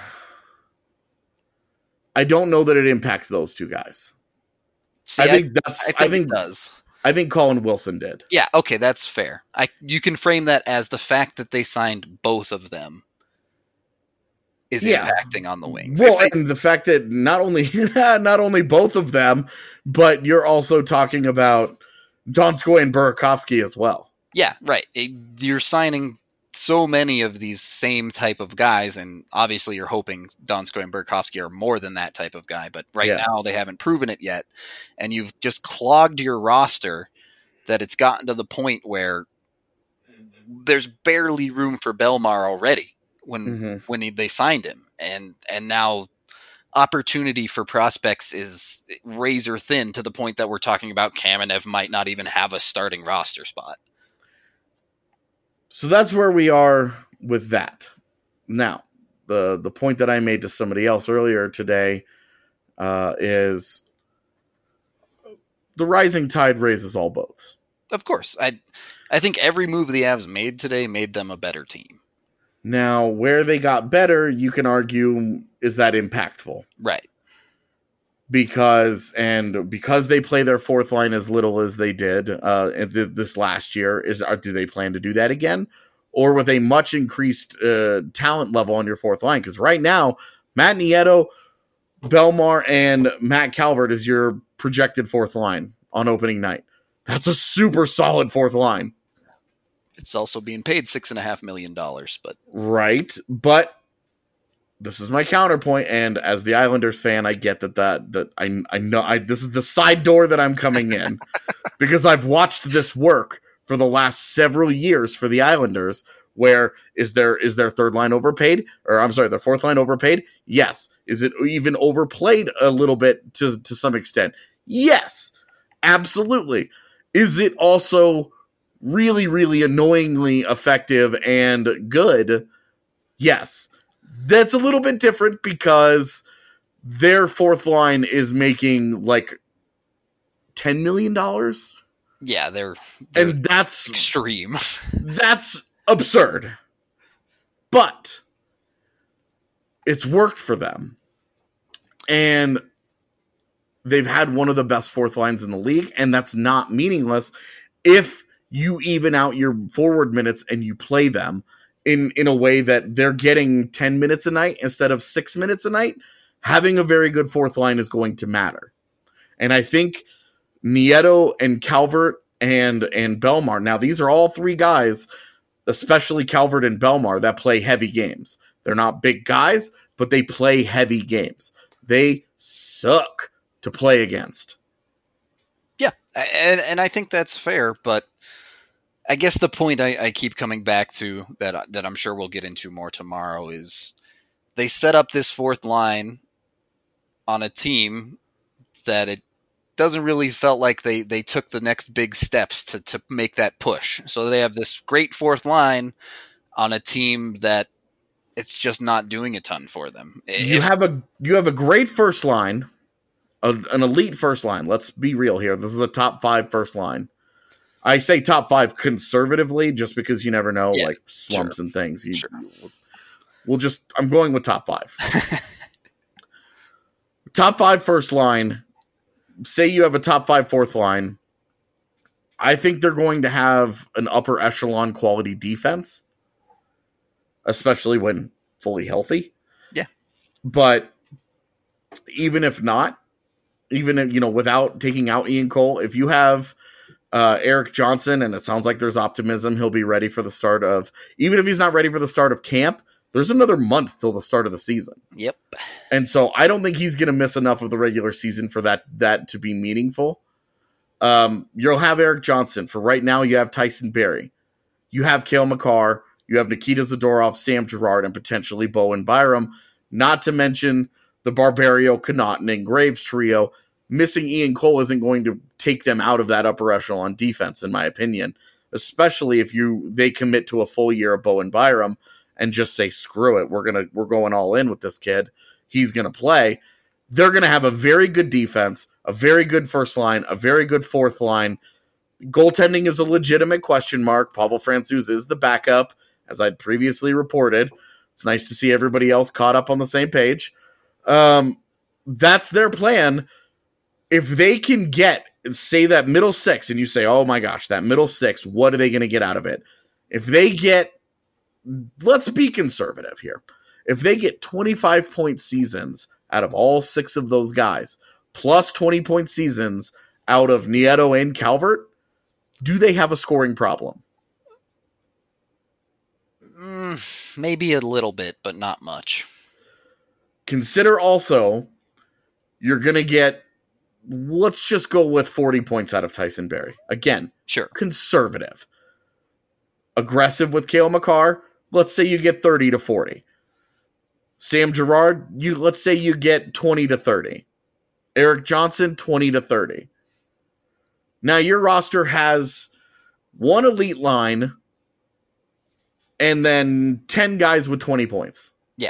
Speaker 1: know that it impacts those two guys.
Speaker 4: See,
Speaker 1: I think
Speaker 4: it does.
Speaker 1: I think Colin Wilson did.
Speaker 4: Yeah, okay, that's fair. You can frame that as the fact that they signed both of them is impacting on the wings.
Speaker 1: Well, and the fact that not only both of them, but you're also talking about Donskoy and Burakovsky as well.
Speaker 4: Yeah, right. You're signing so many of these same type of guys, and obviously you're hoping Donskoy and Burakovsky are more than that type of guy, but now they haven't proven it yet, and you've just clogged your roster that it's gotten to the point where there's barely room for Belmar already when they signed him, and now opportunity for prospects is razor thin to the point that we're talking about Kamenev might not even have a starting roster spot.
Speaker 1: So that's where we are with that. Now, the point that I made to somebody else earlier today is the rising tide raises all boats.
Speaker 4: Of course. I think every move the Avs made today made them a better team.
Speaker 1: Now, where they got better, you can argue, is that impactful?
Speaker 4: Right.
Speaker 1: Because they play their fourth line as little as they did this last year, do they plan to do that again? Or with a much increased talent level on your fourth line? Because right now, Matt Nieto, Belmar, and Matt Calvert is your projected fourth line on opening night. That's a super solid fourth line.
Speaker 4: It's also being paid $6.5 million, but
Speaker 1: right. But this is my counterpoint, and as the Islanders fan, I get that I know this is the side door that I'm coming in because I've watched this work for the last several years for the Islanders. Where is their third line overpaid? Or I'm sorry, their fourth line overpaid? Yes. Is it even overplayed a little bit to some extent? Yes, absolutely. Is it also really, really annoyingly effective and good? Yes. That's a little bit different because their fourth line is making like $10 million.
Speaker 4: Yeah, they're
Speaker 1: and that's
Speaker 4: extreme.
Speaker 1: That's absurd. But it's worked for them. And they've had one of the best fourth lines in the league, and that's not meaningless if you even out your forward minutes and you play them in a way that they're getting 10 minutes a night instead of 6 minutes a night. Having a very good fourth line is going to matter. And I think Nieto and Calvert and Belmar, now these are all three guys, especially Calvert and Belmar, that play heavy games. They're not big guys, but they play heavy games. They suck to play against.
Speaker 4: Yeah, and I think that's fair, but I guess the point I keep coming back to that I'm sure we'll get into more tomorrow is they set up this fourth line on a team that it doesn't really felt like they took the next big steps to make that push. So they have this great fourth line on a team that it's just not doing a ton for them.
Speaker 1: You have a great first line, an elite first line. Let's be real here. This is a top 5 first line. I say top 5 conservatively just because you never know,
Speaker 4: Yeah,
Speaker 1: like slumps and things.
Speaker 4: Sure.
Speaker 1: I'm going with top 5. Top 5 first line. Say you have a top 5 fourth line. I think they're going to have an upper echelon quality defense, especially when fully healthy.
Speaker 4: Yeah.
Speaker 1: But even if not, even if, without taking out Ian Cole, if you have Erik Johnson, and it sounds like there's optimism, he'll be ready for the start of, even if he's not ready for the start of camp, there's another month till the start of the season.
Speaker 4: Yep.
Speaker 1: And so I don't think he's going to miss enough of the regular season for that to be meaningful. You'll have Erik Johnson. For right now, you have Tyson Barrie. You have Cale Makar. You have Nikita Zadorov, Sam Girard, and potentially Bowen Byram. Not to mention the Barberio, Connaughton, and Graves trio. Missing Ian Cole isn't going to take them out of that upper echelon defense, in my opinion. Especially if they commit to a full year of Bowen Byram and just say, screw it, we're going all in with this kid. He's gonna play. They're gonna have a very good defense, a very good first line, a very good fourth line. Goaltending is a legitimate question mark. Pavel Francouz is the backup, as I'd previously reported. It's nice to see everybody else caught up on the same page. That's their plan. If they can get, say, that middle six, and you say, oh my gosh, that middle six, what are they going to get out of it? If they get, let's be conservative here. If they get 25-point seasons out of all 6 of those guys, plus 20-point seasons out of Nieto and Calvert, do they have a scoring problem?
Speaker 4: Maybe a little bit, but not much.
Speaker 1: Consider also, you're going to get, let's just go with 40 points out of Tyson Barrie. Again,
Speaker 4: Sure.
Speaker 1: Conservative. Aggressive with Cale Makar, let's say you get 30 to 40. Sam Girard, let's say you get 20 to 30. Erik Johnson, 20 to 30. Now your roster has one elite line and then 10 guys with 20 points.
Speaker 4: Yeah.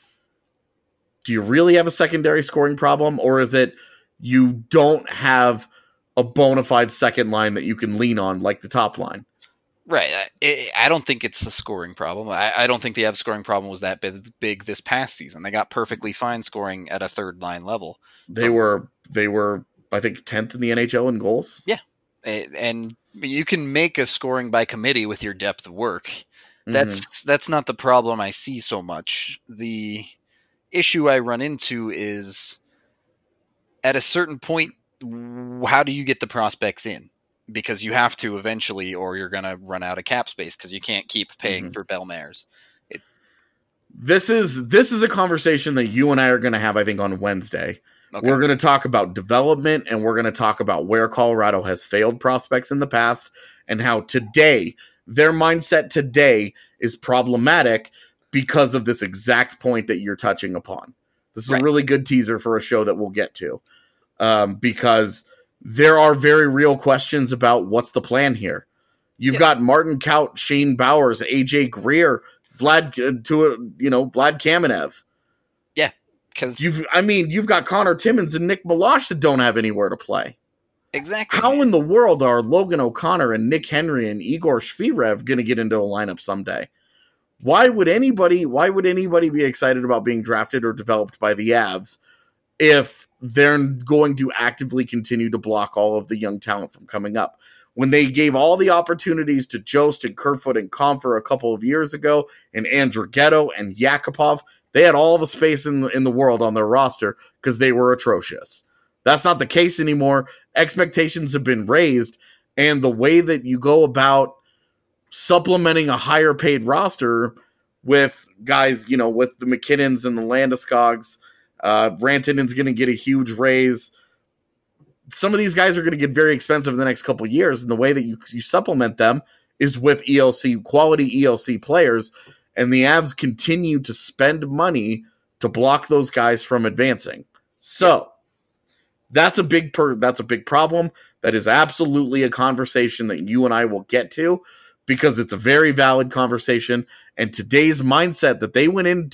Speaker 1: Do you really have a secondary scoring problem, or is it you don't have a bona fide second line that you can lean on like the top line?
Speaker 4: Right. I don't think it's a scoring problem. I don't think the Avs scoring problem was that big this past season. They got perfectly fine scoring at a third line level.
Speaker 1: They were, I think, 10th in the NHL in goals.
Speaker 4: Yeah. And you can make a scoring by committee with your depth of work. That's not the problem I see so much. The issue I run into is at a certain point, how do you get the prospects in? Because you have to eventually, or you're going to run out of cap space because you can't keep paying for Bellemare.
Speaker 1: This is a conversation that you and I are going to have, I think, on Wednesday. Okay. We're going to talk about development, and we're going to talk about where Colorado has failed prospects in the past and how today, their mindset today is problematic because of this exact point that you're touching upon. This is a really good teaser for a show that we'll get to, because there are very real questions about what's the plan here. You've got Martin Kaut, Shane Bowers, AJ Greer, Vlad Kamenev.
Speaker 4: Yeah, because
Speaker 1: you've got Connor Timmins and Nick Milosh that don't have anywhere to play.
Speaker 4: Exactly.
Speaker 1: How in the world are Logan O'Connor and Nick Henry and Igor Shvirev going to get into a lineup someday? Why would anybody be excited about being drafted or developed by the Avs if they're going to actively continue to block all of the young talent from coming up? When they gave all the opportunities to Jost and Kerfoot and Comfer a couple of years ago, and Andrighetto and Yakupov, they had all the space in the world on their roster because they were atrocious. That's not the case anymore. Expectations have been raised, and the way that you go about supplementing a higher paid roster with guys, with the McKinnons and the Landeskog's, Rantanen's going to get a huge raise. Some of these guys are going to get very expensive in the next couple of years, and the way that you supplement them is with quality ELC players, and the Avs continue to spend money to block those guys from advancing. So that's a big problem. That is absolutely a conversation that you and I will get to, because it's a very valid conversation. And today's mindset, they went in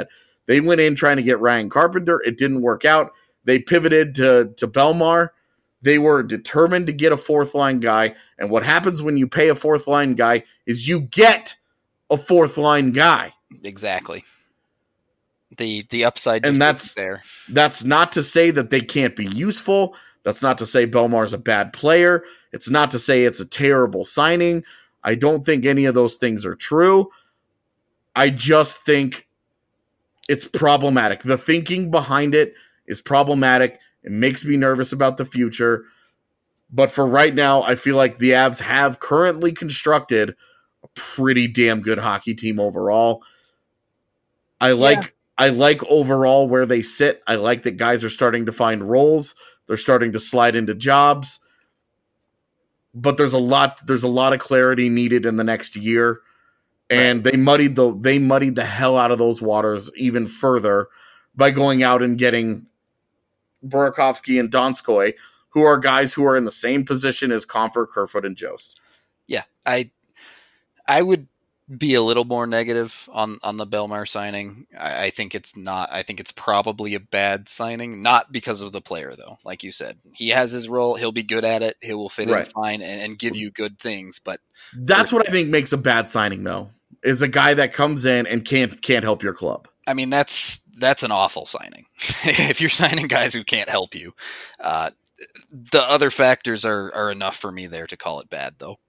Speaker 1: trying to get Ryan Carpenter. It didn't work out. They pivoted to Bellemare. They were determined to get a fourth line guy. And what happens when you pay a fourth line guy is you get a fourth line guy.
Speaker 4: Exactly. The upside
Speaker 1: and
Speaker 4: that's there.
Speaker 1: That's not to say that they can't be useful. That's not to say Belmar's a bad player. It's not to say it's a terrible signing. I don't think any of those things are true. I just think it's problematic. The thinking behind it is problematic. It makes me nervous about the future. But for right now, I feel like the Avs have currently constructed a pretty damn good hockey team overall. I like overall where they sit. I like that guys are starting to find roles. They're starting to slide into jobs. But there's a lot of clarity needed in the next year. And they muddied the hell out of those waters even further by going out and getting Burakovsky and Donskoy, who are guys who are in the same position as Comfort, Kerfoot, and Jost.
Speaker 4: Yeah, I would be a little more negative on the Belmar signing. I think it's not. I think it's probably a bad signing, not because of the player, though. Like you said, he has his role. He'll be good at it. He will fit in fine and give you good things. But
Speaker 1: that's what I think makes a bad signing, though, is a guy that comes in and can't help your club.
Speaker 4: I mean, that's an awful signing. If you're signing guys who can't help you, the other factors are enough for me there to call it bad, though.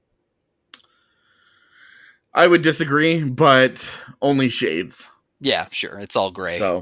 Speaker 1: I would disagree, but only shades.
Speaker 4: Yeah, sure. It's all gray.
Speaker 1: So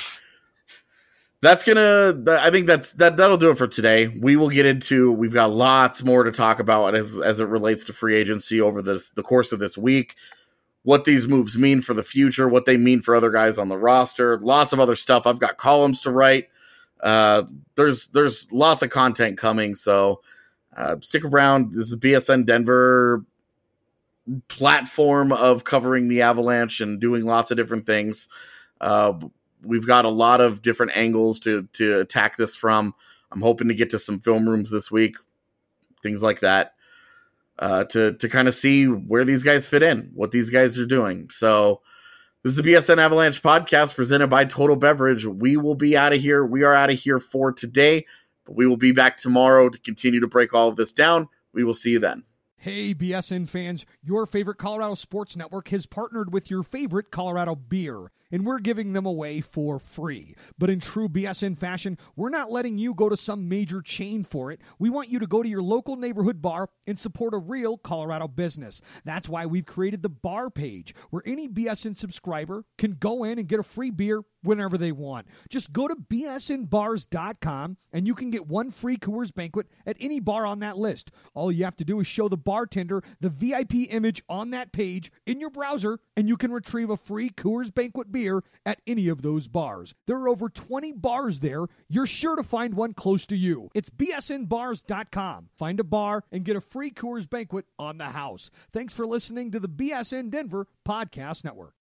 Speaker 1: I think that'll do it for today. We've got lots more to talk about as it relates to free agency over the course of this week. What these moves mean for the future, what they mean for other guys on the roster, lots of other stuff. I've got columns to write. There's lots of content coming, so stick around. This is BSN Denver platform of covering the Avalanche and doing lots of different things. We've got a lot of different angles to attack this from. I'm hoping to get to some film rooms this week, things like that, to kind of see where these guys fit in, what these guys are doing. So this is the BSN Avalanche podcast presented by Total Beverage. We will be out of here. We are out of here for today, but we will be back tomorrow to continue to break all of this down. We will see you then.
Speaker 5: Hey, BSN fans, your favorite Colorado Sports Network has partnered with your favorite Colorado beer, and we're giving them away for free. But in true BSN fashion, we're not letting you go to some major chain for it. We want you to go to your local neighborhood bar and support a real Colorado business. That's why we've created the bar page, where any BSN subscriber can go in and get a free beer whenever they want. Just go to bsnbars.com and you can get one free Coors Banquet at any bar on that list. All you have to do is show the bartender the VIP image on that page in your browser, and you can retrieve a free Coors Banquet beer at any of those bars. There are over 20 bars there. You're sure to find one close to you. It's bsnbars.com. Find a bar and get a free Coors Banquet on the house. Thanks for listening to the BSN Denver Podcast Network.